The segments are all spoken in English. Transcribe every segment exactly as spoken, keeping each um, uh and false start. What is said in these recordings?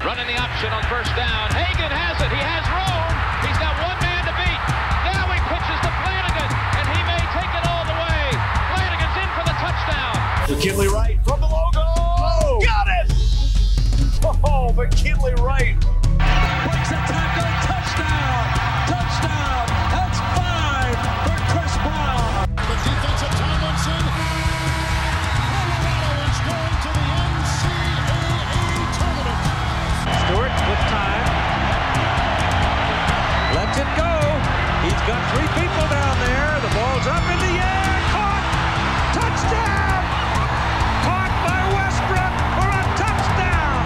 Running the option on first down. Hagan has it. He has room. He's got one man to beat. Now he pitches to Flanagan, and he may take it all the way. Flanagan's in for the touchdown. McKinley Wright from the logo. Oh, got it! Oh, McKinley Wright. Breaks a tackle. Touchdown. Touchdown. That's five for Chris Brown. The defensive Tomlinson. Colorado is going to the N C double A tournament. Stewart with time. Lets it go. He's got three people down there. The ball's up in the air. Caught. Touchdown. Caught by Westbrook for a touchdown.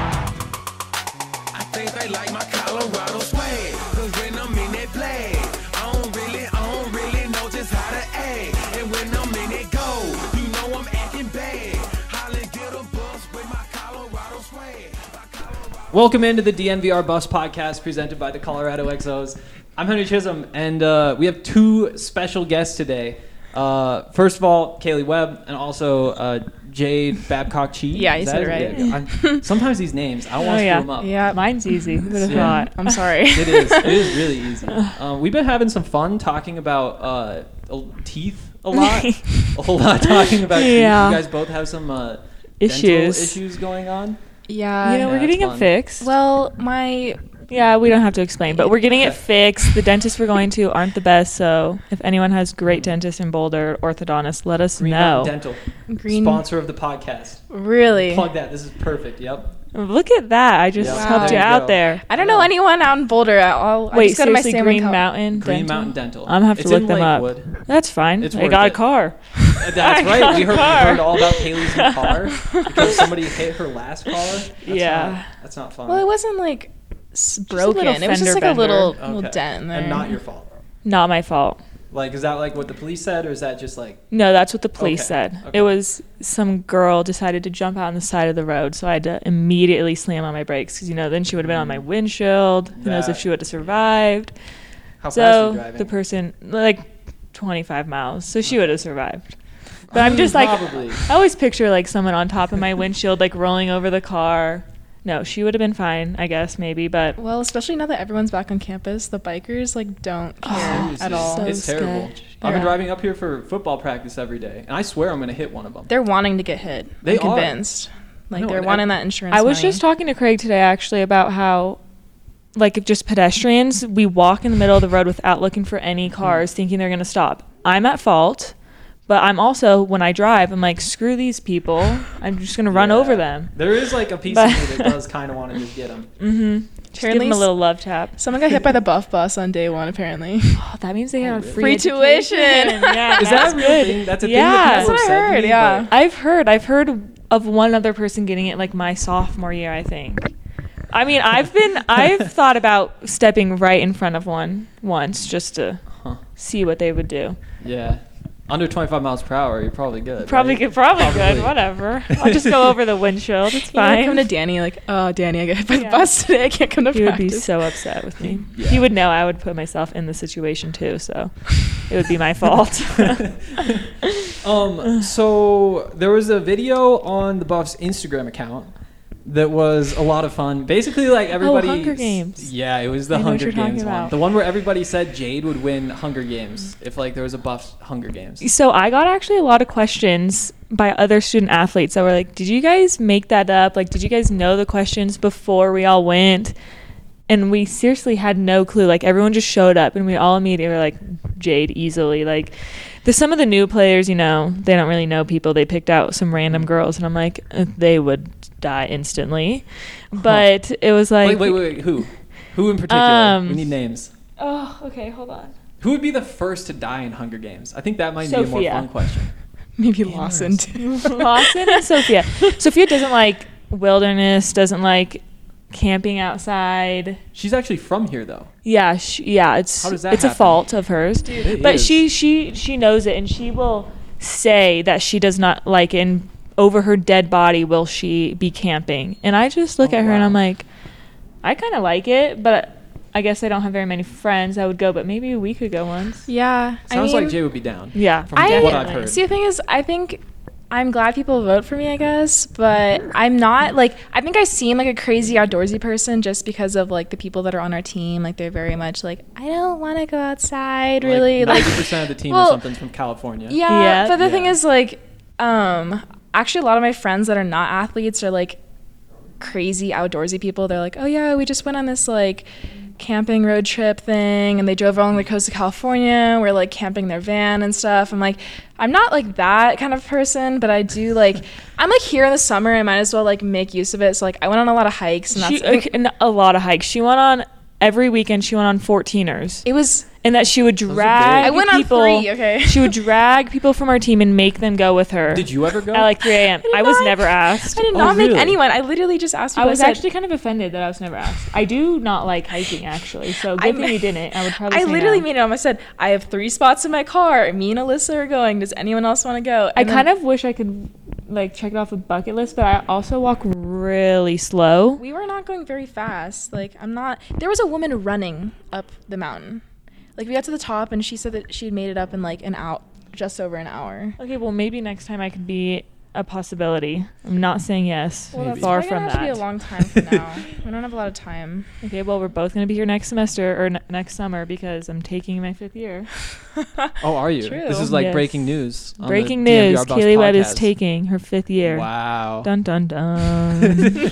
I think they like my Colorado swag. Cause when I'm in that play, I don't really, I don't really know just how to act. And when I'm in it go, you know I'm acting bad. Holly get a bus with my Colorado swag. My Colorado- Welcome into the D N V R Bus Podcast presented by the Colorado X Os. I'm Henry Chisholm, and uh, we have two special guests today. Uh, first of all, Kaylee Webb, and also uh, Jade Babcock-Chee. Yeah, you Is said that it it? right. Yeah, I'm- sometimes these names, I don't want Oh, to yeah. screw them up. Yeah, mine's easy. Who would have Yeah. thought? I'm sorry. It is. It is really easy. Um, we've been having some fun talking about uh, teeth a lot. a whole lot talking about Yeah. teeth. You guys both have some uh, Issues. dental issues going on. Yeah. You know, Yeah, we're getting it's it fun. fixed. Well, my Yeah, we don't have to explain, but we're getting it fixed. The dentists we're going to aren't the best, so if anyone has great dentists in Boulder, orthodontists, let us Green know. Mountain Dental, green. sponsor of the podcast. Really? Plug that. This is perfect. Yep. Look at that. I just Yep. helped There you you out go. there. I don't know anyone out in Boulder. I'll, I Wait, just go to my seriously, San Green Juan- Mountain Green Dental? Mountain Dental. I'm going to have to It's look in them Lakewood. up. That's fine. It's I worth got it. a car. That's I right. got We a heard, we car. heard all about Kaylee's new car because somebody hit her last car. That's Yeah. Not, that's not fun. Well, it wasn't like s- a broken. little It was just fender like a little, bender. little Okay. dent in there. And not your fault. Not my fault. Like, is that like what the police said, or is that just like? No, that's what the police Okay, said. okay. It was some girl decided to jump out on the side of the road, so I had to immediately slam on my brakes because, you know, then she would have been on my windshield. Who knows if That- she would have survived. How fast were So you driving? the person, like twenty-five miles, so she would have survived. But I'm just like, Probably. I always picture like someone on top of my windshield, like rolling over the car. No, she would have been fine, I guess, maybe, but Well, especially now that everyone's back on campus, the bikers like don't care Seriously, at all. So It's terrible. sketch. I've been Yeah. driving up here for football practice every day, and I swear I'm gonna hit one of them. They're wanting to get hit. They I'm are. convinced. Like know, they're and wanting ev- that insurance. I was money. just talking to Craig today actually about how, like, if just pedestrians, we walk in the middle of the road without looking for any cars, thinking they're going to stop. I'm at fault, but I'm also, when I drive, I'm like, screw these people. I'm just going to run Yeah. over them. There is like a piece But- of me that does kind of want to just get them. Mm-hmm. Just give Apparently them a s- little love tap. Someone got hit by the buff bus on day one. Apparently. Oh, that means they got a really? free, Free tuition. education. Yeah, Is that that's a real good. thing? That's a Yeah. thing that That's people what have I said to heard, me, yeah. but- I've heard. I've heard of one other person getting it like my sophomore year, I think. I mean, I've been, I've thought about stepping right in front of one once just to Huh. see what they would do. Yeah. Under twenty-five miles per hour, you're probably good. Probably right? good, probably, Probably. good, whatever. I'll just go over the windshield. It's You know, fine. come to Danny like, oh, Danny, I got hit by the Yeah. bus today. I can't come to He would be practice. so upset with me. Yeah. He would know I would put myself in the situation too, so it would be my fault. Um, so there was a video on the Buffs Instagram account that was a lot of fun. Basically, like everybody. Hunger Games. Yeah, it was the I know what Hunger you're talking Games one. about. The one where everybody said Jade would win Hunger Games if like there was a Buffs Hunger Games. So I got actually a lot of questions by other student athletes that were like, did you guys make that up? Like, did you guys know the questions before we all went? And we seriously had no clue. Like, everyone just showed up and we all immediately were like, Jade, easily. Like, the, some of the new players, you know, they don't really know people. They picked out some random girls and I'm like, uh, they would die instantly. But it was like... Wait, wait, wait, wait. Who? Who in particular? Um, we need names. Oh, okay, hold on. Who would be the first to die in Hunger Games? I think that might be a more Sophia. fun question. Maybe Lawson too. Lawson and Sophia. Sophia doesn't like wilderness, doesn't like camping outside. She's actually from here, though. Yeah, she, yeah, it's How does that it's a happen? fault of hers. It But is. she she she knows it and she will say that she does not like it, and over her dead body will she be camping. And I just look Oh, at her and wow. I'm like, I kind of like it, but I guess I don't have very many friends that would go, but maybe we could go once. Yeah. Sounds I mean, like Jay would be down. Yeah. From I, what I've heard. See, the thing is, I think I'm glad people vote for me, I guess, but I'm not like I think I seem like a crazy outdoorsy person just because of like the people that are on our team. Like they're very much like I don't want to go outside, really. Like ninety percent of the team well, or something's from California. Yeah, Yeah. but the Yeah. thing is like um actually a lot of my friends that are not athletes are like crazy outdoorsy people. They're like, "Oh yeah, we just went on this like camping road trip thing and they drove along the coast of California. We're like camping their van and stuff." I'm like, I'm not like that kind of person, but I do like I'm like here in the summer. I might as well like make use of it. So like I went on a lot of hikes and that's She, okay, and a lot of hikes. She went on every weekend. She went on fourteeners, it was and that she would are big. drag. I went on people, three, okay. She would drag people from our team and make them go with her. Did you ever go? At like three a.m. I did I was not- never asked. I did Oh, not make really? anyone. I literally just asked I people. was said- actually kind of offended that I was never asked. I do not like hiking, actually. So good I'm- thing you didn't. I would probably. I say literally no. made it up. I said, I have three spots in my car. Me and Alyssa are going. Does anyone else want to go? I And then- kind of wish I could like check it off a bucket list, but I also walk really slow. We were not going very fast. Like, I'm not. There was a woman running up the mountain. Like, we got to the top, and she said that she'd made it up in like an hour, just over an hour. Okay, well maybe next time I could be a possibility. I'm not saying yes. Well, that's Far probably from gonna have to be a that. long time from now. We don't have a lot of time. Okay, well we're both gonna be here next semester or n- next summer because I'm taking my fifth year. Oh, are you? True. This is like Yes. breaking news. on the Breaking D M V news: R Boss Kaylee Webb is podcast. taking her fifth year. Wow. Dun dun dun.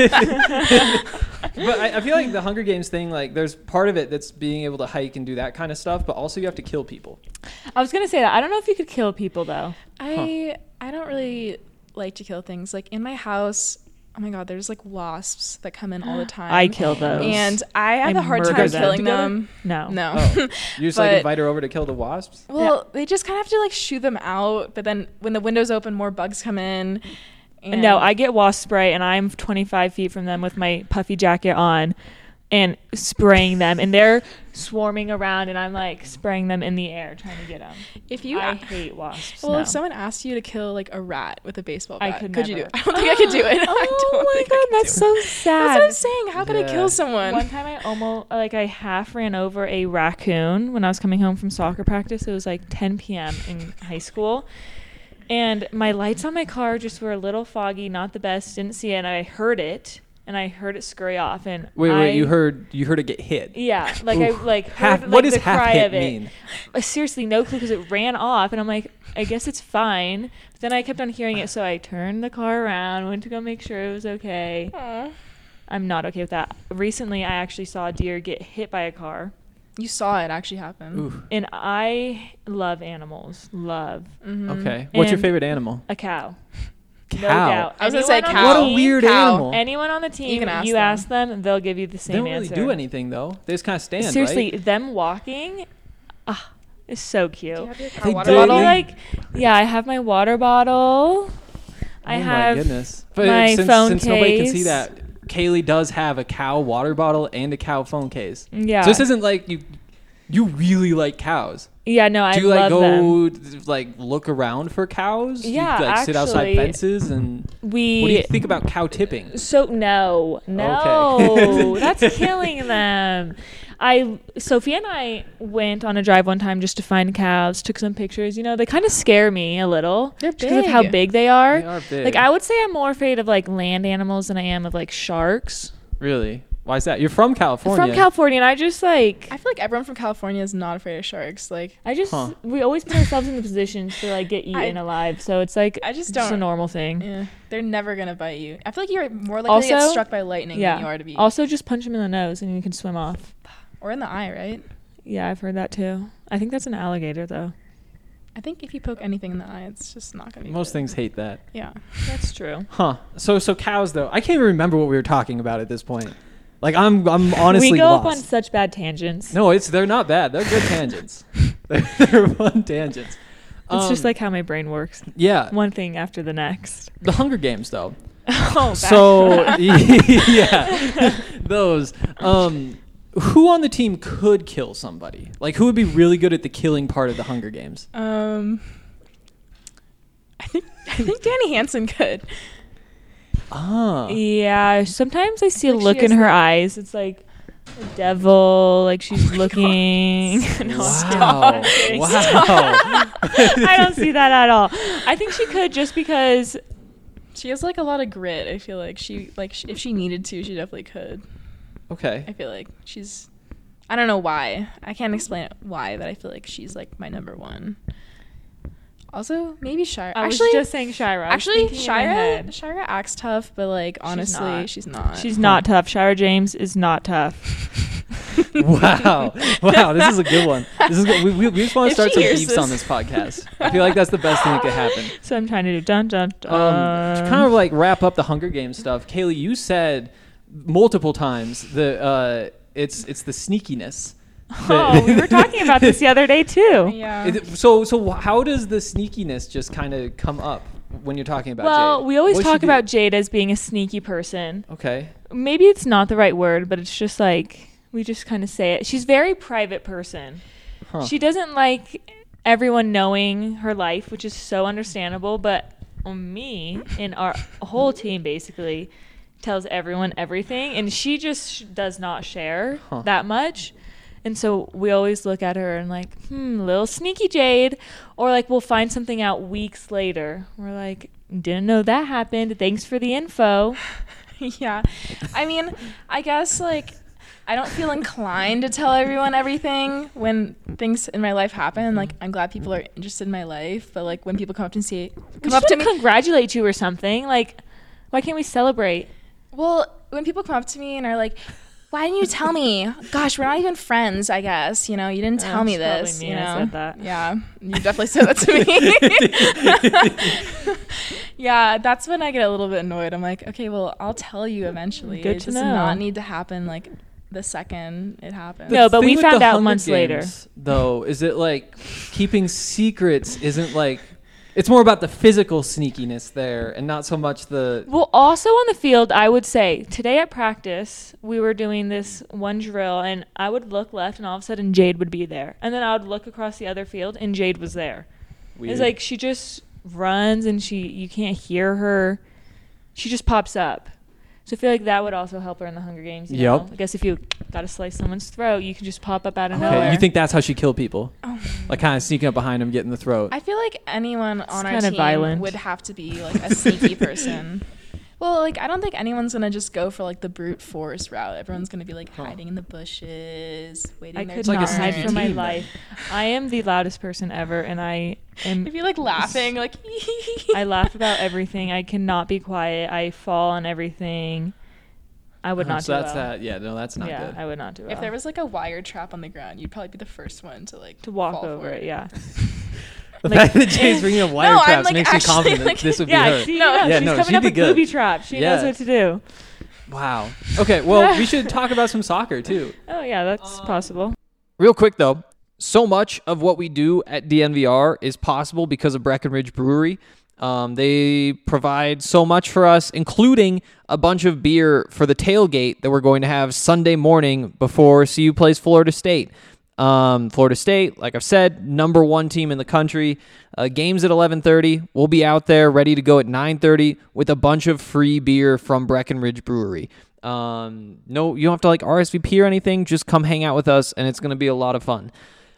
But I, I feel like the Hunger Games thing, like, there's part of it that's being able to hike and do that kind of stuff, but also you have to kill people. I was gonna say that. I don't know if you could kill people though. I I don't really like to kill things. Like in my house, oh my god, there's like wasps that come in all the time. I kill those. and I have I a hard murder time them. killing Together? them. no. No. Oh, you just like But- invite her over to kill the wasps? Well, they just kind of have to like shoo them out, but then when the windows open, more bugs come in. And No, I get wasp spray and I'm twenty-five feet from them with my puffy jacket on and spraying them and they're swarming around and I'm like spraying them in the air trying to get them. if you I hate wasps. well, no. if someone asked you to kill like a rat with a baseball I bat, could could, you do never. it? I don't think I could do it. I Oh don't my think I god, could that's do it. so sad. That's what I'm saying. How could I Yeah. kill someone? One time I almost like I half ran over a raccoon when I was coming home from soccer practice. It was like ten p.m. in high school. And my lights on my car just were a little foggy, not the best. Didn't see it, and I heard it, and I heard it scurry off. And Wait, I, wait, you heard you heard it get hit. Yeah, like Oof. I like heard Half, like, what does the half cry hit of it. mean? Uh, seriously, no clue because it ran off, and I'm like, I guess it's fine. But then I kept on hearing it, so I turned the car around, went to go make sure it was okay. Aw. I'm not okay with that. Recently, I actually saw a deer get hit by a car. You saw it actually happen. Ooh. And I love animals. Love. Mhm. Okay. What's your And- favorite animal? A cow. Cow. No doubt. I was gonna say Anyone on cow. the What a team- weird Cow. animal. Anyone on the team, can ask you them. ask them, they'll give you the They same don't really answer. do anything though. They just kind of stand. Seriously, right? them walking, ah, is so cute. Do you have your cow They water do. Maybe bottle? like, yeah, I have my water bottle. I oh have my goodness. But my since, phone since nobody can see case. that, Kaylee does have a cow water bottle and a cow phone case. Yeah. So this isn't like you. You really like cows. Yeah, no, I Do you like love them. go like look around for cows? Yeah, you, like sit outside actually, fences and We what do you think about cow tipping? So no, no, Okay. that's killing them. I Sophia and I went on a drive one time just to find cows. Took some pictures. You know, they kind of scare me a little. They're because of how big. big they are. They are big. Like I would say, I'm more afraid of like land animals than I am of like sharks. Really? Why is that? You're from California. From California, and I just like I feel like everyone from California is not afraid of sharks. Like I just Huh. we always put ourselves in the positions to like get eaten I- alive. So it's like I just just a don't- normal thing. yeah, they're never gonna bite you. I feel like you're more likely to get Also- struck by lightning Yeah. than you are to be, Also, just punch them in the nose and you can swim off. or in the eye, right? Yeah, I've heard that too. I think that's an alligator though. I think if you poke anything in the eye, it's just not gonna be. Most good. things hate that. Yeah. That's true. Huh. So so cows though. I can't even remember what we were talking about at this point. Like I'm I'm honestly we go lost. up on such bad tangents. No, it's they're not bad. They're good tangents. they're, they're fun tangents. It's just Um, like how my brain works. yeah. One thing after the next. The Hunger Games though. Oh, So yeah, those. Um, who on the team could kill somebody? Like who would be really good at the killing part of the Hunger Games? Um. I think I think Danny Hansen could. Ah. Yeah, sometimes I see a Like she look in has her the- eyes. It's like, devil, like she's looking. No, Wow. I'm Wow. I don't see that at all. I think she could just because She has like a lot of grit. I feel like she like sh- if she needed to, she definitely could. Okay. I feel like she's. I don't know why. I can't explain it why, but I feel like she's like my number one. Also, maybe Shira. I Actually, was just saying Shira. I was actually, thinking in my Shira. head. Shira acts tough, but like honestly, not. she's not. She's not tough. Shira James is not tough. Wow. Wow. This is a good one. This is good. We, we, we just want to If start she some hears beefs this. on this podcast. I feel like that's the best thing that could happen. So I'm trying to do dun dun dun. Um, to kind of like wrap up the Hunger Games stuff, Kaylee, you said multiple times the uh, it's it's the sneakiness. Oh, we were talking about this the other day too. Yeah. Is it- so so how does the sneakiness just kind of come up when you're talking about Well, Jade? we always What does she talk do? about Jade as being a sneaky person. Okay. Maybe it's not the right word, but it's just like we just kind of say it. She's a very private person. Huh. She doesn't like everyone knowing her life, which is so understandable. But me and our whole team basically tells everyone everything, and she just sh- does not share Huh. that much. And so we always look at her and like, hmm, little sneaky Jade. Or like we'll find something out weeks later. We're like, didn't know that happened. Thanks for the info. Yeah. I mean, I guess like I don't feel inclined to tell everyone everything when things in my life happen. Like I'm glad people are interested in my life, but like when people come up to see We come up to should me, congratulate you or something. Like, why can't we celebrate? well, when people come up to me and are like, "Why didn't you tell me? Gosh, we're not even friends, I guess. You know, you didn't tell Oh, me it's probably this." me You that know, said that. yeah, you definitely said that to me. Yeah, that's when I get a little bit annoyed. I'm like, okay, well, I'll tell you eventually. Good it to does know. not need to happen like the second it happens. No, but thing we with found the out Hunger months later. Games, though, is it like keeping secrets isn't like it's more about the physical sneakiness there and not so much the Well, also on the field, I would say today at practice, we were doing this one drill, and I would look left, and all of a sudden Jade would be there. And then I would look across the other field, and Jade was there. weird. It's like she just runs, and she you can't hear her. She just pops up. So I feel like that would also help her in the Hunger Games. You Yep. know? I guess if you got to slice someone's throat, you can just pop up out of Okay, nowhere. you think that's how she killed people? Oh. Like kind of sneaking up behind him, getting the throat. I feel like anyone on our kinda team violent. would have to be like a sneaky person. Well, like I don't think anyone's gonna just go for like the brute force route. Everyone's gonna be like hiding in the bushes, waiting I their could like a not turn. hide sneaky for my team, then. life. I am the loudest person ever, and I am. If you like laughing, like I laugh about everything. I cannot be quiet. I fall on everything. I would Uh-huh, not so do that's well. that. Yeah, no, that's not yeah, good. I would not do well. if there was like a wire trap on the ground, you'd probably be the first one to like to walk fall over for it, yeah. The like- fact that Jay's bringing up wire No, I'm, traps like, makes me actually, confident like- that this would be Yeah, her. see, No. no, Yeah, she's no, coming she'd up be with good. booby traps. She Yeah. knows what to do. Wow. Okay, well, we should talk about some soccer too. Oh yeah, that's possible. Real quick though, so much of what we do at D N V R is possible because of Breckenridge Brewery. Um, they provide so much for us, including a bunch of beer for the tailgate that we're going to have Sunday morning before C U plays Florida State. Um, Florida State, like I've said, number one team in the country. Uh, games at eleven thirty. We'll be out there ready to go at nine thirty with a bunch of free beer from Breckenridge Brewery. Um, no, you don't have to like R S V P or anything. Just come hang out with us, and it's going to be a lot of fun.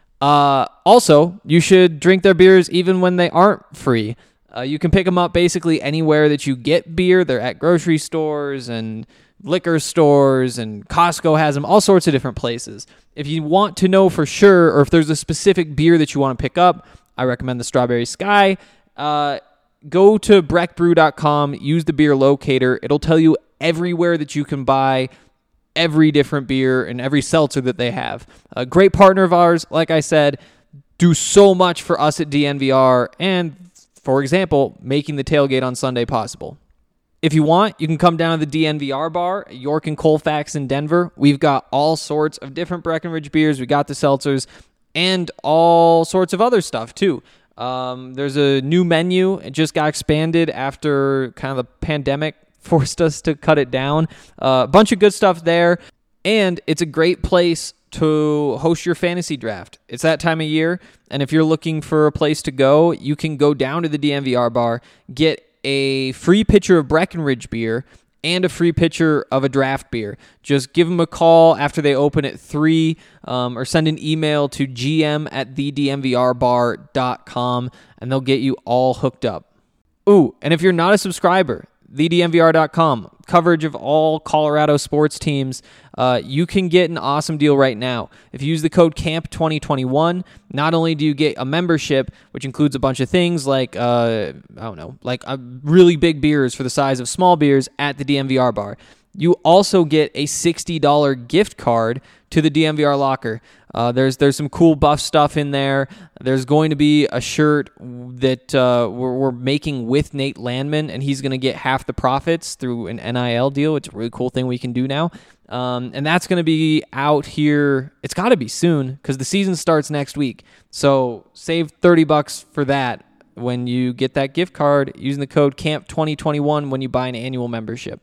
Uh, also, you should drink their beers even when they aren't free. Uh, you can pick them up basically anywhere that you get beer. They're at grocery stores and liquor stores, and Costco has them, all sorts of different places. If you want to know for sure, or if there's a specific beer that you want to pick up, I recommend the Strawberry Sky. Uh, go to breck brew dot com, use the beer locator. It'll tell you everywhere that you can buy every different beer and every seltzer that they have. A great partner of ours, like I said, do so much for us at D N V R and, for example, making the tailgate on Sunday possible. If you want, you can come down to the D N V R bar at York and Colfax in Denver. We've got all sorts of different Breckenridge beers. We got the seltzers and all sorts of other stuff too. Um, there's a new menu. It just got expanded after kind of the pandemic forced us to cut it down. Uh, a bunch of good stuff there. And it's a great place to host your fantasy draft. It's that time of year. And if you're looking for a place to go, you can go down to the D N V R bar, get a free pitcher of Breckenridge beer, and a free pitcher of a draft beer. Just give them a call after they open at three, um, or send an email to gm at the d m v r bar dot com, and they'll get you all hooked up. Ooh, and if you're not a subscriber, the d m v r dot com, coverage of all Colorado sports teams. Uh, you can get an awesome deal right now. If you use the code C A M P twenty twenty-one, not only do you get a membership, which includes a bunch of things like, uh, I don't know, like uh, really big beers for the size of small beers at the D M V R bar. You also get a sixty dollars gift card to the D M V R locker. Uh, there's there's some cool buff stuff in there. There's going to be a shirt that uh, we're, we're making with Nate Landman, and he's going to get half the profits through an N I L deal. It's a really cool thing we can do now. Um, and that's going to be out here. It's got to be soon because the season starts next week. So save thirty bucks for that when you get that gift card using the code C A M P twenty twenty-one when you buy an annual membership.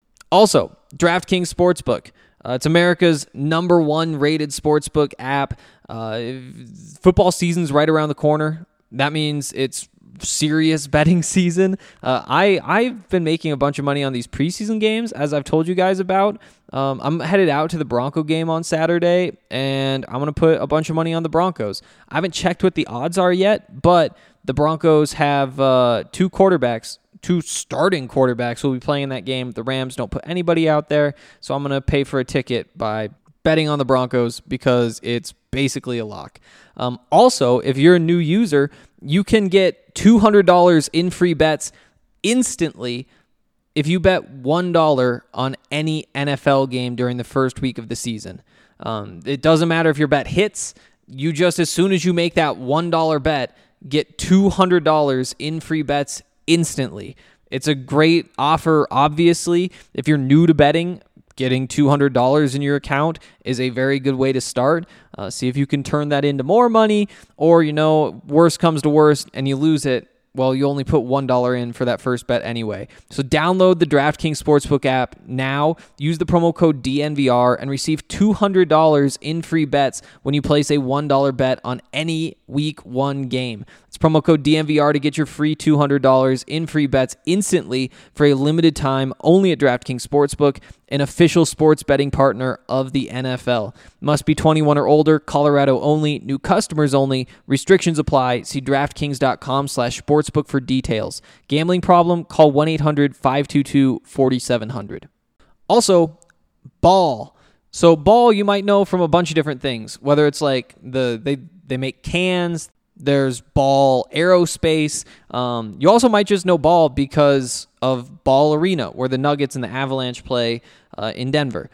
Also, DraftKings Sportsbook. Uh, it's America's number one rated sportsbook app. Uh, football season's right around the corner. That means it's serious betting season. Uh, I, I've been making a bunch of money on these preseason games, as I've told you guys about. Um, I'm headed out to the Bronco game on Saturday, and I'm going to put a bunch of money on the Broncos. I haven't checked what the odds are yet, but the Broncos have uh, two quarterbacks. Two starting quarterbacks will be playing in that game. The Rams don't put anybody out there, so I'm going to pay for a ticket by betting on the Broncos because it's basically a lock. Um, also, if you're a new user, you can get two hundred dollars in free bets instantly if you bet one dollar on any N F L game during the first week of the season. Um, it doesn't matter if your bet hits. You just, as soon as you make that one dollar bet, get two hundred dollars in free bets instantly. It's a great offer, obviously. If you're new to betting, getting two hundred dollars in your account is a very good way to start. Uh, see if you can turn that into more money, or, you know, worst comes to worst and you lose it. Well, you only put one dollar in for that first bet anyway. So download the DraftKings Sportsbook app now. Use the promo code D N V R and receive two hundred dollars in free bets when you place a one dollar bet on any week one game. It's promo code D N V R to get your free two hundred dollars in free bets instantly for a limited time only at DraftKings Sportsbook, an official sports betting partner of the N F L. Must be twenty-one or older, Colorado only, new customers only, restrictions apply. See DraftKings.com slash sportsbook for details. Gambling problem? Call one eight hundred five two two four seven zero zero. Also, Ball. So Ball you might know from a bunch of different things, whether it's like the they, they make cans. There's Ball Aerospace. Um, you also might just know Ball because of Ball Arena, where the Nuggets and the Avalanche play uh, in Denver.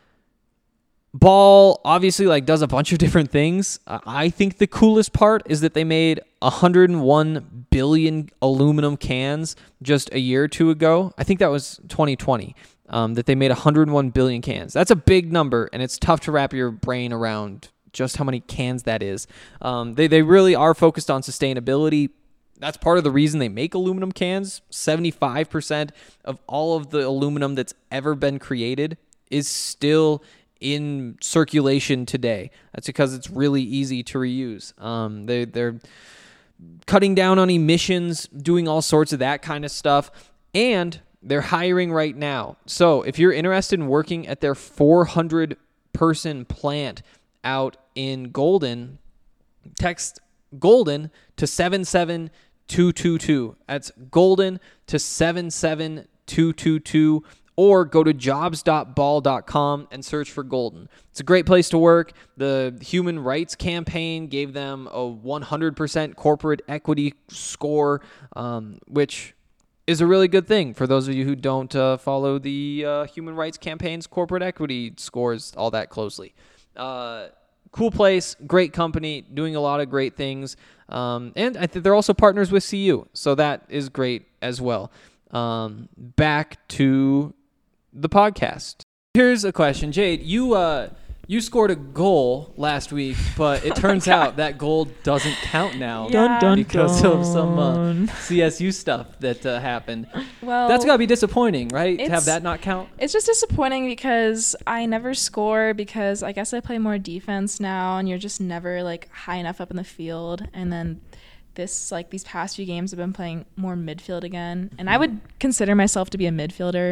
Ball obviously like does a bunch of different things. Uh, I think the coolest part is that they made one hundred one billion aluminum cans just a year or two ago. I think that was twenty twenty. Um, that they made one hundred one billion cans. That's a big number, and it's tough to wrap your brain around just how many cans that is. Um, they, they really are focused on sustainability. That's part of the reason they make aluminum cans. seventy-five percent of all of the aluminum that's ever been created is still in circulation today. That's because it's really easy to reuse. Um, they, they're cutting down on emissions, doing all sorts of that kind of stuff, and they're hiring right now. So if you're interested in working at their four hundred person plant out in Golden, text Golden to seven seven two two two. That's Golden to seven seven two two two, or go to jobs dot ball dot com and search for Golden. It's a great place to work. The Human Rights Campaign gave them a one hundred percent corporate equity score, um, which is a really good thing for those of you who don't uh, follow the uh, Human Rights Campaign's corporate equity scores all that closely. Uh, cool place, great company, doing a lot of great things. Um, and I think they're also partners with C U, so that is great as well. Um, back to the podcast. Here's a question. Jade, you uh, you scored a goal last week, but it turns out that goal doesn't count now Dun, dun, because dun. of some uh, C S U stuff that uh, happened. Well, That's got to be disappointing, right? To have it's- that not count? It's just disappointing because I never score because I guess I play more defense now, and you're just never like high enough up in the field. And then this like these past few games I've been playing more midfield again, and I would consider myself to be a midfielder.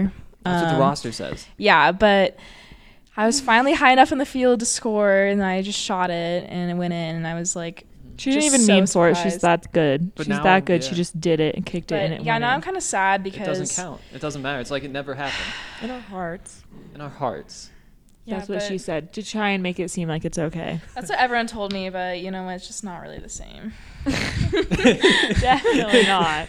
That's what the Um, roster says. Yeah, but I was finally high enough in the field to score, and I just shot it, and it went in, and I was like, She didn't just even so mean for it. She's surprised. that good. But She's now, that good. She yeah. just did it and kicked it, But and it yeah, went now in. I'm kind of sad It because doesn't count. It doesn't matter. It's like it never happened. in our hearts. In our hearts. Yeah, That's what she but said, to try and make it seem like it's okay. that's what everyone told me, but you know what? It's just not really the same. Definitely not.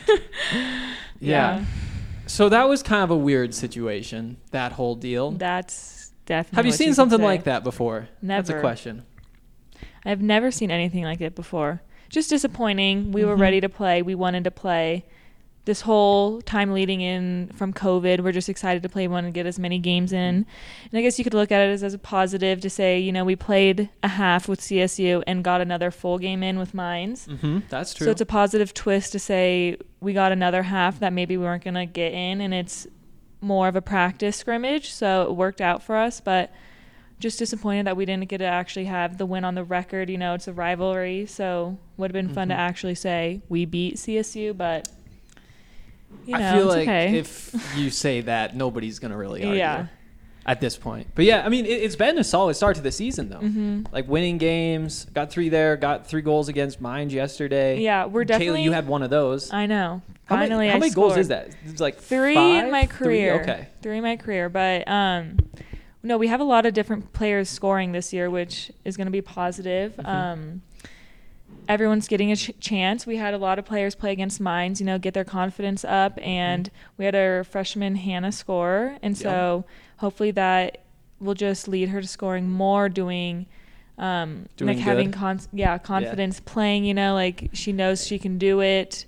Yeah. So that was kind of a weird situation, that whole deal. That's definitely. Have you what seen could something say. like that before? That's a Never. question. I've never seen anything like it before. Just disappointing. We were Mhm. ready to play. We wanted to play. This whole time leading in from COVID, we're just excited to play. We want to get as many games in. And I guess you could look at it as, as a positive to say, you know, we played a half with C S U and got another full game in with Mines. Mm-hmm. That's true. So it's a positive twist to say we got another half that maybe we weren't going to get in, and it's more of a practice scrimmage. So it worked out for us, but just disappointed that we didn't get to actually have the win on the record. You know, it's a rivalry, so would have been fun to Mhm. actually say we beat C S U, but you know, I feel it's like okay. if you say that, nobody's going to really argue Yeah. at this point. But yeah, I mean, it, it's been a solid start to the season, though. Mhm. Like winning games, got three there, got three goals against Mines yesterday. Yeah, we're Kaylee, definitely. you had one of those. I know. How Finally, many, how I many goals scored. is that? It's like Three five? in my Three? career. Okay. Three in my career, but um, no, we have a lot of different players scoring this year, which is going to be positive. Mhm. Um, everyone's getting a ch- chance. We had a lot of players play against Mines, you know, get their confidence up, and we had our freshman Hannah score, and so hopefully that will just lead her to scoring more, doing. Um, Doing like having good. con- yeah confidence playing, you know, like she knows she can do it.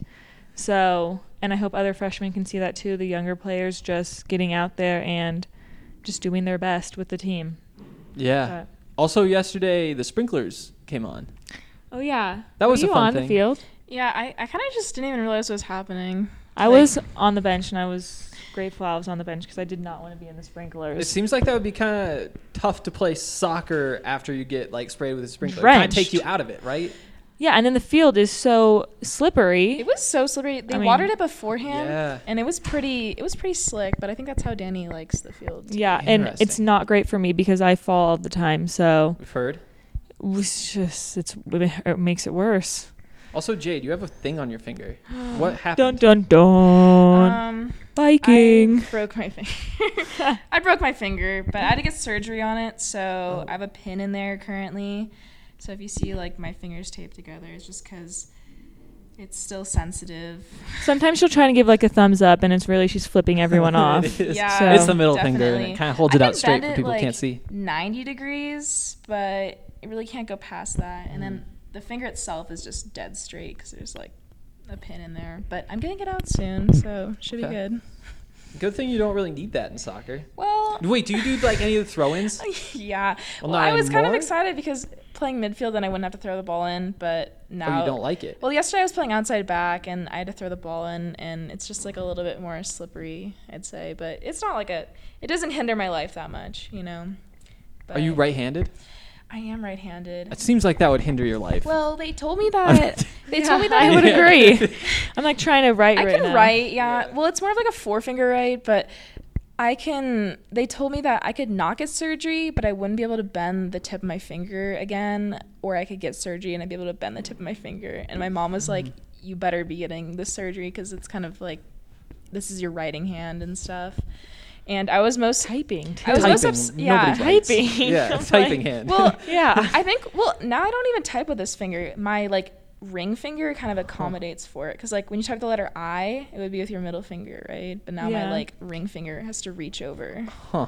So, and I hope other freshmen can see that too, the younger players just getting out there and just doing their best with the team. Yeah. But- Also, yesterday, the sprinklers came on. oh yeah, That Were was a you fun on thing. the field? Yeah, I, I kind of just didn't even realize what was happening. I Like- was on the bench, and I was grateful I was on the bench because I did not want to be in the sprinklers. It seems like that would be kind of tough to play soccer after you get like sprayed with a sprinkler. Kind of Drenched. take you out of it, right? yeah, and then the field is so slippery. It was so slippery. They I mean- watered it beforehand, Yeah. and it was pretty. It was pretty slick. But I think that's how Danny likes the field. yeah, and it's Interesting. not great for me because I fall all the time. So We've heard. it's just it's it makes it worse. Also, Jade, you have a thing on your finger. What Dun happened? dun dun. Um, Viking. I broke my finger. I broke my finger, but I had to get surgery on it, so I have a pin in there currently. So if you see like my fingers taped together, it's just because it's still sensitive. Sometimes she'll try to give like a thumbs up, and it's really she's flipping everyone off. It is. Yeah, So- It's the middle finger, and definitely. it kind of holds I it out can straight bend for it, people who like, can't see. ninety degrees, but it really can't go past that. And then the finger itself is just dead straight because there's like a pin in there. But I'm getting it out soon, so should Okay. be good. Good thing you don't really need that in soccer. Well, Wait, do you do like any of the throw-ins? yeah. Well, Well, not I was kind of anymore? excited because playing midfield, then I wouldn't have to throw the ball in. But now Oh, you don't like it? Well, yesterday I was playing outside back, and I had to throw the ball in, and it's just like a little bit more slippery, I'd say. But it's not like a. It doesn't hinder my life that much, you know. But Are you right-handed? I am right-handed. It seems like that would hinder your life. Well, they told me that. They told me that I would Yeah. agree. I'm like trying to write I right can now. write, yeah. Well, it's more of like a four-finger write, but I can. They told me that I could not get surgery, but I wouldn't be able to bend the tip of my finger again, or I could get surgery and I'd be able to bend the tip of my finger. And my mom was like, "You better be getting the surgery because it's kind of like this is your writing hand and stuff." And I was most Typing too. I was most Typing. ups- yeah, Nobody writes. typing. Yeah, I'm typing like, hand. well, Yeah. I think. Well, now I don't even type with this finger. My like ring finger kind of accommodates for it because like when you type the letter I, it would be with your middle finger, right? But now Yeah. my like ring finger has to reach over. Huh.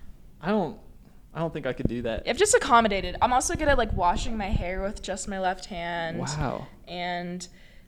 I don't I don't think I could do that. I've just accommodated. I'm also good at like washing my hair with just my left hand. Wow. And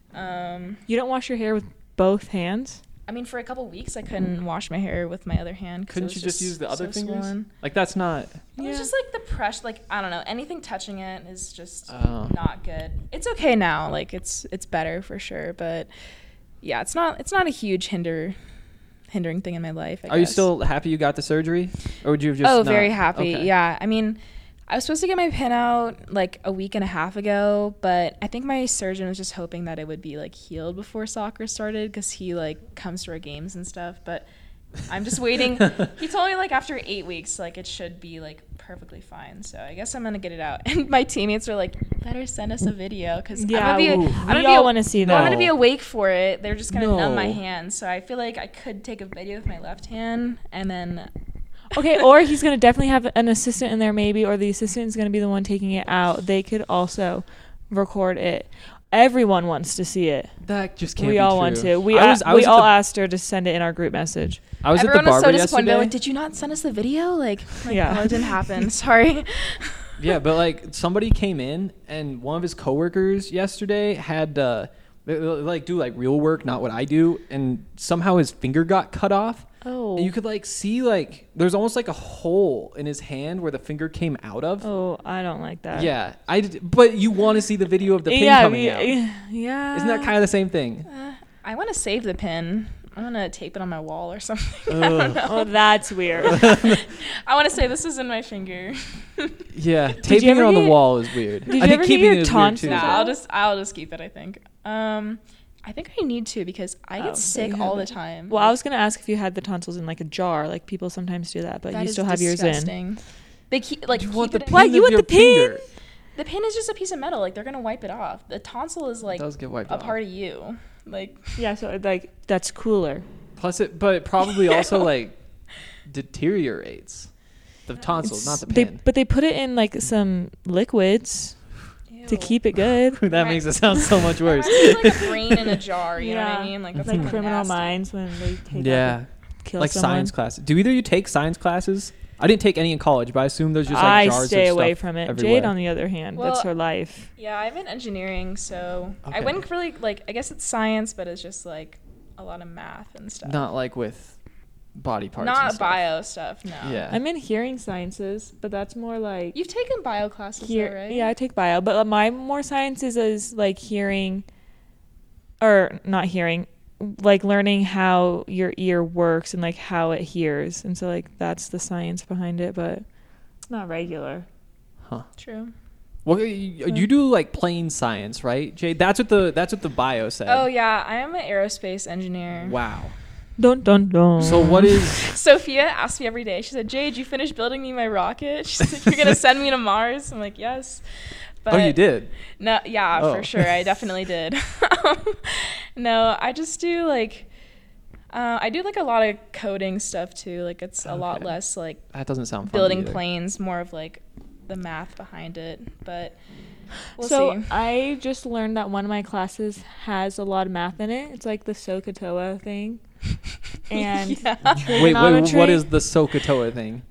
um, You don't wash your hair with both hands? I mean, for a couple weeks, I couldn't wash my hair with my other hand. 'cause it Couldn't was you just use the other so fingers? swollen. Like that's not It was just like the pressure, like I don't know, anything touching it is just Oh. not good. It's okay now, like it's it's better for sure, but yeah, it's not it's not a huge hinder hindering thing in my life. I Are you guess. still happy you got the surgery? Or would you have just Oh, not- very happy. Okay. Yeah, I mean, I was supposed to get my pin out like a week and a half ago, but I think my surgeon was just hoping that it would be like healed before soccer started because he like comes to our games and stuff. But I'm just waiting. He told me like after eight weeks, like it should be like perfectly fine. So I guess I'm gonna get it out. And my teammates were like, "Better send us a video because Yeah, I'm gonna be, ooh. I'm gonna We be all a- wanna see I'm that. gonna be awake for it. They're just gonna numb my No. hands. So I feel like I could take a video with my left hand and then Okay, or he's gonna definitely have an assistant in there, maybe, or the assistant is gonna be the one taking it out. They could also record it. Everyone wants to see it. That just can't We be all true. want to. We I a- was, I we was at all the, asked her to send it in our group message. I was everyone at the was barber so disappointed. yesterday. They're like, did you not send us the video? Like, like Yeah. oh, it didn't happen. Sorry. Yeah, but like somebody came in and one of his coworkers yesterday had uh they, they, like do like real work, not what I do, and somehow his finger got cut off. Oh. And you could like see like there's almost like a hole in his hand where the finger came out of. Oh, I don't like that. Yeah, I did, but you want to see the video of the pin yeah, coming we- out. yeah. Isn't that kind of the same thing? Uh, I want to save the pin. I'm gonna tape it on my wall or something. I don't know. Oh, that's weird. I want to say this is in my finger. Yeah, taping ever it on the get- wall is weird. did you I think ever get keeping your it is weird tonsils too. Nah, out? I'll just I'll just keep it. I think. Um, I think I need to because I Oh, get so you sick all the haven't. time. Well, I was gonna ask if you had the tonsils in like a jar, like people sometimes do that, but That you is still have yours in. disgusting. They keep like You want keep the it in- What, pin you of want your the pin? finger. The pin is just a piece of metal. Like they're gonna wipe it off. The tonsil is like It does get wiped a off. part of you. Like Yeah, so like that's cooler. Plus it, but it probably also like deteriorates the tonsils, not the They, pin. but they put it in like some liquids to ew. keep it good. That makes it sound so much worse. Reminds me of, like a brain in a jar. You know what I mean? Like it's that's like kinda Criminal nasty. Minds when they take Yeah, out the, kill like someone. science classes. Do either of you take science classes? I didn't take any in college, but I assume there's just like I jars stay of away stuff from it. everywhere. Jade, on the other hand, that's Well, her life. Yeah, I'm in engineering, so I Okay. wouldn't really like. I guess it's science, but it's just like a lot of math and stuff. Not like with body parts. and Not stuff. bio stuff. No. Yeah. I'm in hearing sciences, but that's more like You've taken bio classes, hear. though, right? Yeah, I take bio, but my more sciences is like hearing, or not hearing, like learning how your ear works and like how it hears, and so like that's the science behind it, but it's not regular. True. Well, you, you do like plain science, right, Jade? That's what the that's what the bio said. Oh yeah, I am an aerospace engineer. Wow. Dun dun dun. So what is? Sophia asks me every day. She said, "Jade, you finished building me my rocket?" She's like, "You're gonna send me to Mars?" I'm like, "Yes." But Oh, you did. No, yeah, Oh. for sure. I definitely did. No, I just do like, uh, I do like a lot of coding stuff too. Like it's a lot Okay. less like That doesn't sound fun building either. planes, more of like the math behind it. But we'll so see. I just learned that one of my classes has a lot of math in it. It's like the SOHCAHTOA thing. And Yeah. Wait, wait, trigonometry. what is the SOHCAHTOA thing?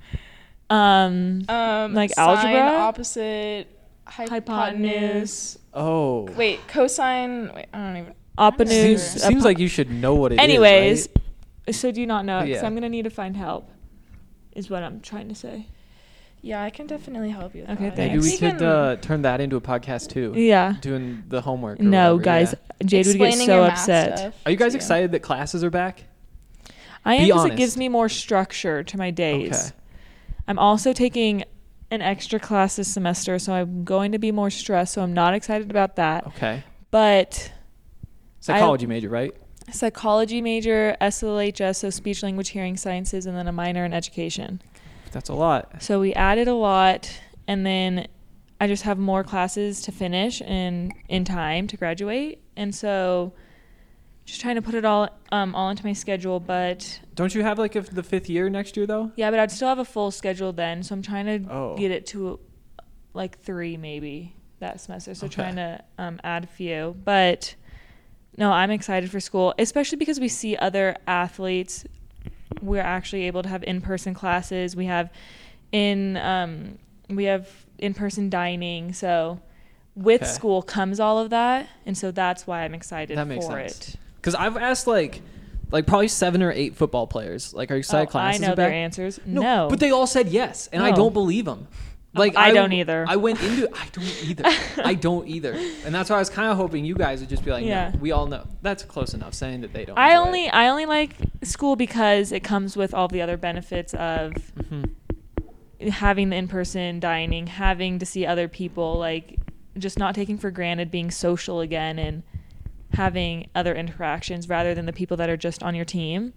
um Um, Like sine, algebra? opposite, hypotenuse. hypotenuse, Oh. Wait, cosine. Wait, I don't even. hypotenuse. Seems, seems like you should know what it is. Anyways, right? so do you not know? Because Yeah. I'm gonna need to find help. Is what I'm trying to say. Yeah, I can definitely help you. With Okay, that. thanks. Maybe we Taken- could uh, turn that into a podcast too. Yeah. Doing the homework. or No, whatever, guys, yeah. Jade would get explaining so your math upset. stuff Are you guys to excited that classes are back? I am Be because it honest. gives me more structure to my days. Okay. I'm also taking an extra class this semester, so I'm going to be more stressed. So I'm not excited about that. Okay. But Psychology major, right? psychology major, S L H S, so speech, language, hearing sciences, and then a minor in education. That's a lot. So we added a lot, and then I just have more classes to finish in in time to graduate, and so just trying to put it all um all into my schedule. But Don't you have like a, the fifth year next year though? yeah, but I'd still have a full schedule then, so I'm trying to Oh. get it to like three maybe that semester. So Okay. trying to um, add a few, but no, I'm excited for school, especially because we see other athletes. We're actually able to have in-person classes. We have in um, we have in-person dining. So with Okay. school comes all of that, and so that's why I'm excited That makes for sense. it. Because I've asked like, like probably seven or eight football players. Like, are you excited Oh, classes I know are their back? answers. No, But they all said yes, and I No. don't believe them. Like I don't either. I went into I don't either. I don't either. And that's why I was kind of hoping you guys would just be like, Yeah. no, we all know. That's close enough saying that they don't. I enjoy only it. I only like school because it comes with all the other benefits of Mhm. having the in-person dining, having to see other people, like just not taking for granted being social again and having other interactions rather than the people that are just on your team.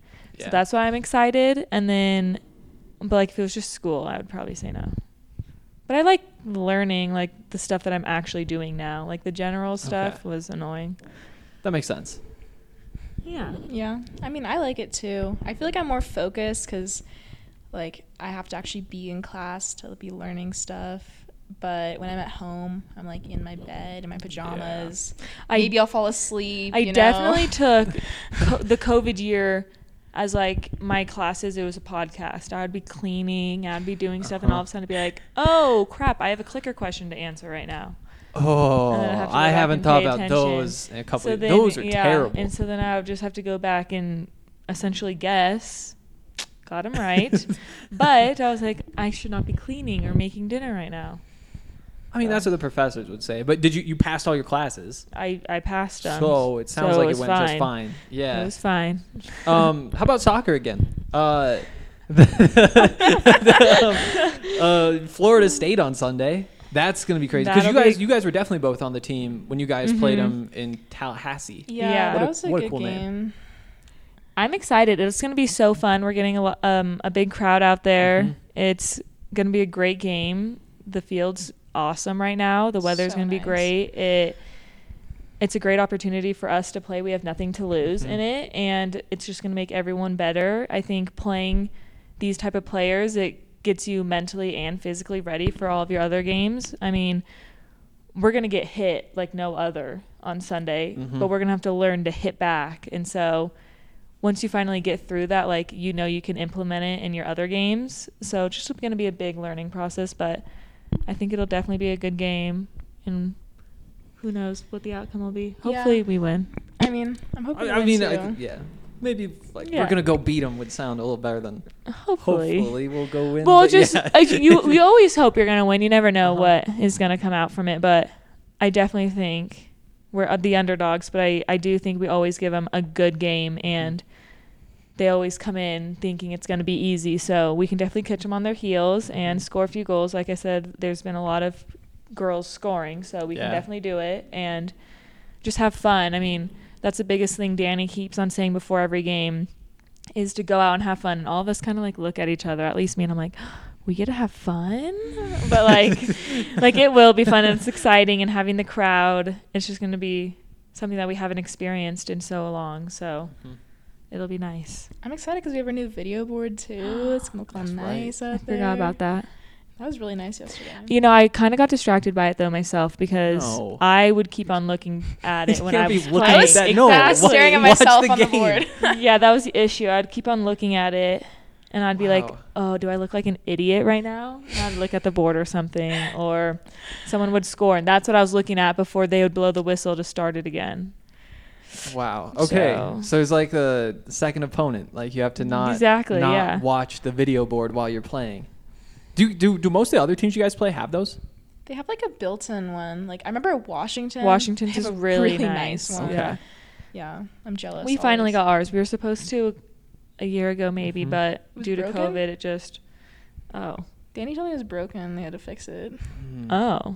Yeah. So that's why I'm excited. And then, but like if it was just school, I would probably say no. But I like learning like the stuff that I'm actually doing now. Like the general stuff Okay. was annoying. That makes sense. Yeah. Yeah. I mean, I like it too. I feel like I'm more focused because, like, I have to actually be in class to be learning stuff. But when I'm at home, I'm like in my bed in my pajamas. I- Maybe I'll fall asleep. I you know? definitely took co- the COVID year as like my classes. It was a podcast. I would be cleaning. I'd be doing stuff, and all of a sudden I'd be like, "Oh crap! I have a clicker question to answer right now." Oh, And then I'd have to go I back haven't and thought pay about attention. those in a couple So of then- those are yeah, terrible. And so then I would just have to go back and essentially guess. Got him right, but I was like, I should not be cleaning or making dinner right now. I mean, that's what the professors would say. But did you you passed all your classes? I I passed them. So it sounds so like it was went just fine. Yeah. It was fine. Um, how about soccer again? Uh, uh, Florida State on Sunday. That's gonna be crazy because you That'll guys be- you guys were definitely both on the team when you guys played Mhm. them in Tallahassee. Yeah, Yeah. that What a- was a what a good cool name. game. I'm excited. It's going to be so fun. We're getting a lo- um a big crowd out there. Mhm. It's going to be a great game. The field's awesome right now. The weather's So going to be nice. great. It it's a great opportunity for us to play. We have nothing to lose Mhm. in it, and it's just going to make everyone better. I think playing these type of players, it gets you mentally and physically ready for all of your other games. I mean, we're going to get hit like no other on Sunday, Mhm. but we're going to have to learn to hit back. And so once you finally get through that, like, you know, you can implement it in your other games. So it's just going to be a big learning process, but I think it'll definitely be a good game. And who knows what the outcome will be. Hopefully Yeah. we win. I mean, I'm hoping. I, we I win mean, too. I, yeah, maybe like Yeah. we're gonna go beat them would sound a little better than Hopefully. hopefully we'll go win. Well, but just yeah. like, you, you always hope you're gonna win. You never know Uh-huh. what is gonna come out from it, but I definitely think we're uh, the underdogs. But I, I do think we always give them a good game, and they always come in thinking it's gonna be easy. So we can definitely catch them on their heels and Mhm. score a few goals. Like I said, there's been a lot of girls scoring, so we Yeah. can definitely do it and just have fun. I mean, that's the biggest thing Danny keeps on saying before every game, is to go out and have fun. And all of us kind of like look at each other, at least me, and I'm like, we get to have fun? But like, like it will be fun, and it's exciting, and having the crowd, it's just going to be something that we haven't experienced in so long. So Mhm. it'll be nice. I'm excited because we have our new video board too. It's gonna look all That's right. nice I out there. forgot about that. That was really nice yesterday. You know, I kind of got distracted by it though myself, because No. I would keep on looking at it You when can't I be was looking playing. at that. No, I was wa- staring at watch myself the on the game. board. Yeah, that was the issue. I'd keep on looking at it, and I'd be like, Wow. oh, do I look like an idiot right now? And I'd look at the board or something, or someone would score, and that's what I was looking at before they would blow the whistle to start it again. Wow. Okay. So, So- it's like the second opponent. Like you have to not Exactly, not yeah. watch the video board while you're playing. Do do do most of the other teams you guys play have those? They have like a built-in one. Like I remember Washington. Washington's they have is a really really nice. nice one. Okay. Yeah. Yeah, I'm jealous. We finally always. got ours. We were supposed to a year ago maybe, Mhm. but Was due to broken? COVID, it just, oh, Danny told me it was broken. They had to fix it. Hmm. oh.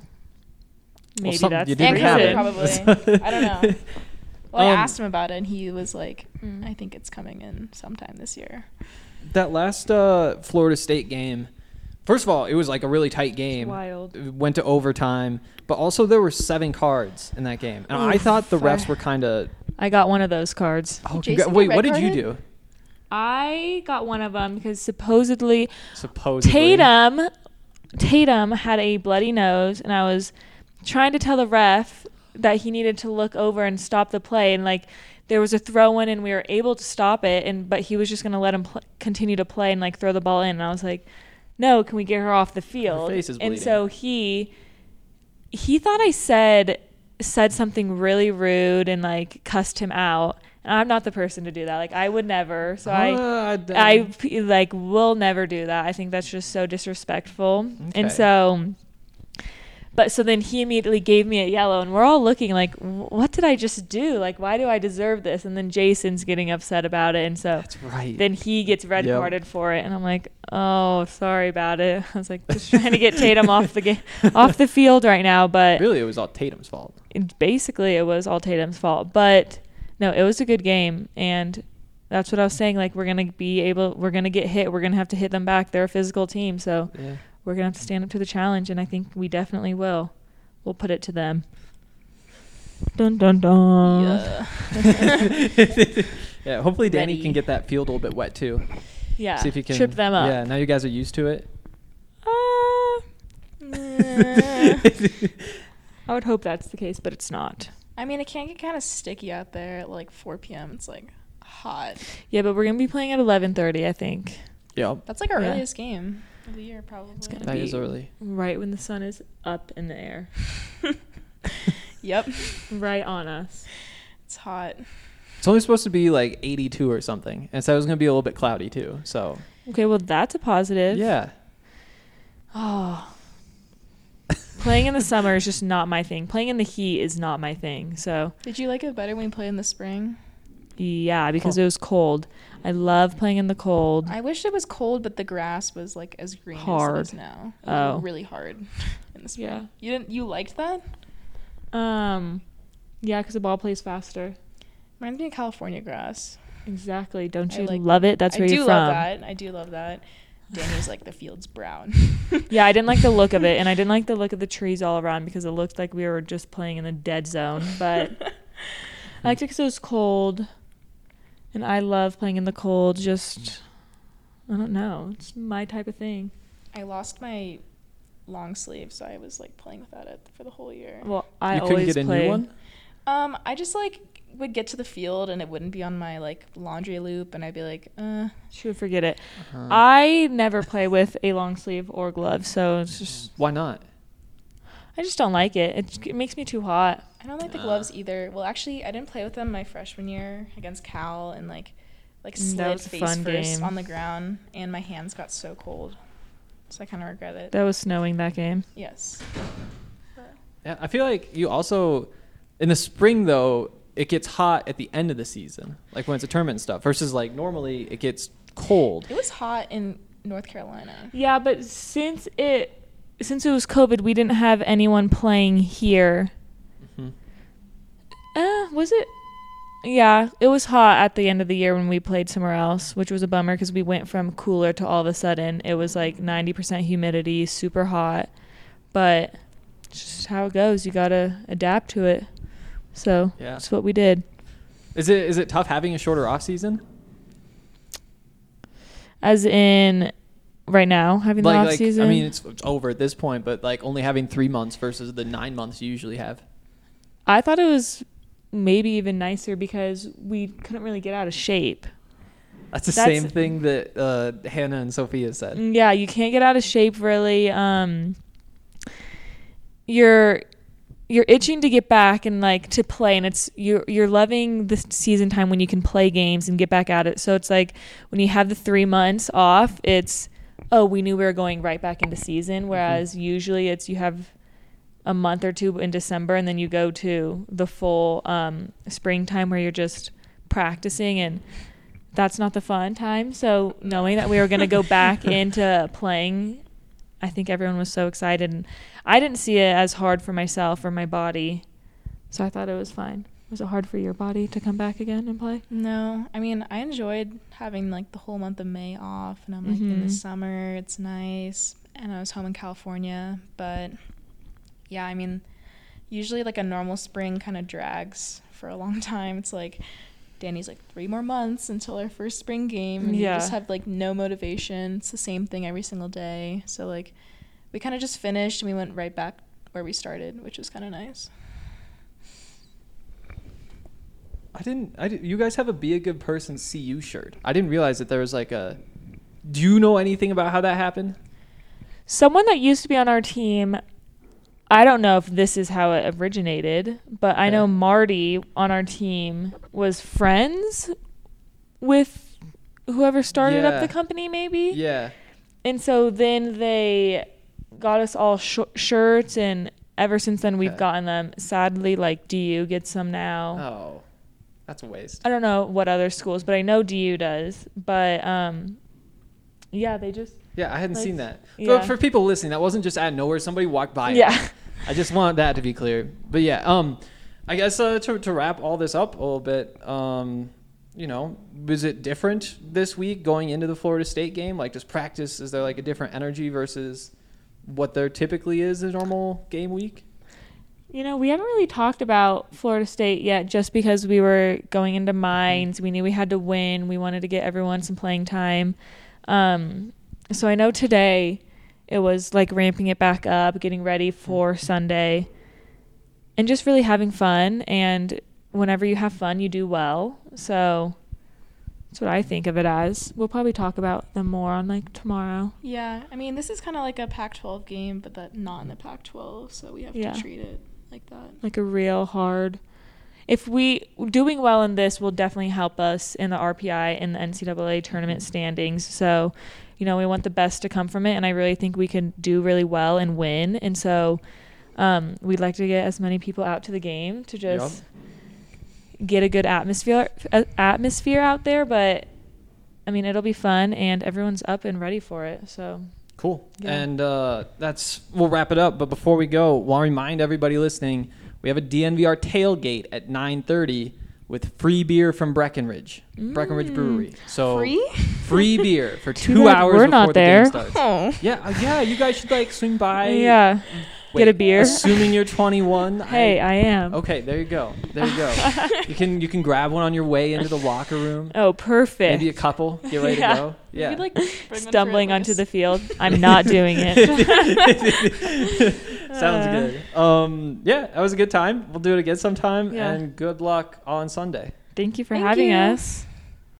Maybe something that's you the didn't And have COVID reason. it. probably. I don't know. Well, I Um, asked him about it, and he was like, Mm. "I think it's coming in sometime this year." That last uh, Florida State game. First of all, it was like a really tight game. wild. It went to overtime, but also there were seven cards in that game, and I Oof, thought the refs I- were kind of. I got one of those cards. Oh, Jason congra- wait, get what did you red-carded? do? I got one of them because supposedly Supposedly. Tatum Tatum had a bloody nose, and I was trying to tell the ref that he needed to look over and stop the play, and like there was a throw in and we were able to stop it, and but he was just going to let him pl- continue to play and like throw the ball in, and I was like, no, can we get her off the field? face is and bleeding. so he he thought I said said something really rude and like cussed him out, and I'm not the person to do that. Like I would never. So I Uh, d- I p- like will never do that. I think that's just so disrespectful. Okay. And so, but so then he immediately gave me a yellow, and we're all looking like, "Wh- what did I just do? Like, why do I deserve this? And then Jason's getting upset about it, and so That's right. then he gets red Yep. carded for it, and I'm like, oh, sorry about it. I was like, just trying to get Tatum off the game, off the field right now, but Really, it was all Tatum's fault. it- basically it was all Tatum's fault. But no, it was a good game, and that's what I was saying. Like, we're going to be able, we're going to get hit. We're going to have to hit them back. They're a physical team. So Yeah. we're going to have to stand up to the challenge. And I think we definitely will. We'll put it to them. Dun, dun, dun. Yeah. Yeah, hopefully Danny Ready. can get that field a little bit wet too. Yeah. See if he can trip them up. Yeah, now you guys are used to it. Uh, eh. I would hope that's the case, but it's not. I mean, it can get kind of sticky out there at like four p.m. It's like hot. Yeah, but we're going to be playing at eleven thirty, I think. Yeah, That's like our Yeah. earliest game of the year, probably. It's gonna that be is early. right when the sun is up in the air. Yep. Right on us. It's hot. It's only supposed to be like eighty-two or something, and so it was gonna be a little bit cloudy too. So Okay, well, that's a positive. yeah, Oh. Playing in the summer is just not my thing. Playing in the heat is not my thing. So, Did you like it better when you played in the spring? yeah, because Oh. it was cold. I love playing in the cold. I wish it was cold, but the grass was like as green Hard. as it is now. It was Oh. really hard in the spring. Yeah. You didn't. You liked that? Um, yeah, because the ball plays faster. Reminds me of California grass. Exactly. Don't I you like- love it? That's I where do you're love from. that. I do love that. Danny's like the field's brown. Yeah, I didn't like the look of it, and I didn't like the look of the trees all around because it looked like we were just playing in the dead zone. But I liked it because it was cold, and I love playing in the cold. Just, I don't know. It's my type of thing. I lost my long sleeve, so I was like playing without it for the whole year. Well, I you couldn't always get a play. new one. Um, I just like would get to the field and it wouldn't be on my like laundry loop, and I'd be like, uh. Should forget it. Uh-huh. I never play with a long sleeve or glove, so it's just Why not? I just don't like it. It, it makes me too hot. I don't like the gloves either. Well, actually, I didn't play with them my freshman year against Cal, and like, like Mm, that slid was a face fun first game. on the ground, and my hands got so cold, so I kind of regret it. That was snowing that game. Yes. Yeah, I feel like you also in the spring though it gets hot at the end of the season, like when it's a tournament and stuff. Versus like normally it gets cold. It was hot in North Carolina. Yeah, but since it since it was COVID, we didn't have anyone playing here. Mhm. Uh, was it? Yeah, it was hot at the end of the year when we played somewhere else, which was a bummer because we went from cooler to all of a sudden it was like ninety percent humidity, super hot. But it's just how it goes. You gotta adapt to it. So Yeah. that's what we did. Is it is it tough having a shorter off season? As in, right now having Like, the off like season. I mean it's, it's over at this point, but like only having three months versus the nine months you usually have. I thought it was maybe even nicer because we couldn't really get out of shape. That's the That's- same thing that uh, Hannah and Sophia said. Yeah, you can't get out of shape really. Um, you're you're itching to get back and like to play, and it's you're you're loving the season time when you can play games and get back at it. So it's like when you have the three months off, it's oh we knew we were going right back into season. Whereas usually it's you have a month or two in December and then you go to the full um, springtime where you're just practicing, and that's not the fun time. So knowing that we were going to go back into playing, I think everyone was so excited, and I didn't see it as hard for myself or my body, so I thought it was fine. Was it hard for your body to come back again and play? No, I mean, I enjoyed having like the whole month of May off, and I'm like in the Mhm. summer, it's nice, and I was home in California, but yeah, I mean, usually like a normal spring kind of drags for a long time. It's like Danny's like three more months until our first spring game, and Yeah. you just have like no motivation. It's the same thing every single day. So like we kind of just finished and we went right back where we started, which was kind of nice. I didn't. I did, you guys have a Be a Good Person C U shirt. I didn't realize that there was like a. Do you know anything about how that happened? Someone that used to be on our team, I don't know if this is how it originated, but I know Okay. Marty on our team was friends with whoever started Yeah. up the company, maybe. Yeah. And so then they got us all sh- shirts, and ever since then we've Okay. gotten them. Sadly, like D U gets some now. Oh, that's a waste. I don't know what other schools, but I know D U does. But um, yeah, they just Yeah, I hadn't Like, seen that. yeah. For, for people listening, that wasn't just out of nowhere. Somebody walked by. it. yeah. I just want that to be clear. But yeah, um, I guess uh, to to wrap all this up a little bit, um, you know, was it different this week going into the Florida State game? Like, just practice, is there like a different energy versus what there typically is a normal game week? You know, we haven't really talked about Florida State yet just because we were going into Mines. We knew we had to win. We wanted to get everyone some playing time. Um, so I know today it was like ramping it back up, getting ready for Sunday, and just really having fun. And whenever you have fun, you do well. So that's what I think of it as. We'll probably talk about them more on like tomorrow. Yeah, I mean, this is kind of like a Pac twelve game, but that not in the Pac twelve, so we have Yeah. to treat it like that. Like a real hard. If we doing well in this will definitely help us in the R P I and the N C double A tournament standings. So, you know, we want the best to come from it, and I really think we can do really well and win. And so, um, we'd like to get as many people out to the game to just yep. get a good atmosphere uh, atmosphere out there. But I mean, it'll be fun, and everyone's up and ready for it. So. Cool. Yeah. And uh, that's we'll wrap it up. But before we go, want to remind everybody listening, we have a D N V R tailgate at nine thirty with free beer from Breckenridge, mm. Breckenridge Brewery. So free, free beer for two Too hours we're before not the there. game starts. Oh. Yeah, uh, yeah. You guys should like swing by. Yeah. Wait, get a beer. Assuming you're twenty-one. Hey, I, I am. Okay, there you go. There you go. you can you can grab one on your way into the locker room. Oh, perfect. Maybe a couple. Get ready yeah. to go. Yeah. You could, like, stumbling onto the field. I'm not doing it. Sounds good. Um, yeah, that was a good time. We'll do it again sometime. Yeah. And good luck on Sunday. Thank you for Thank having you. us.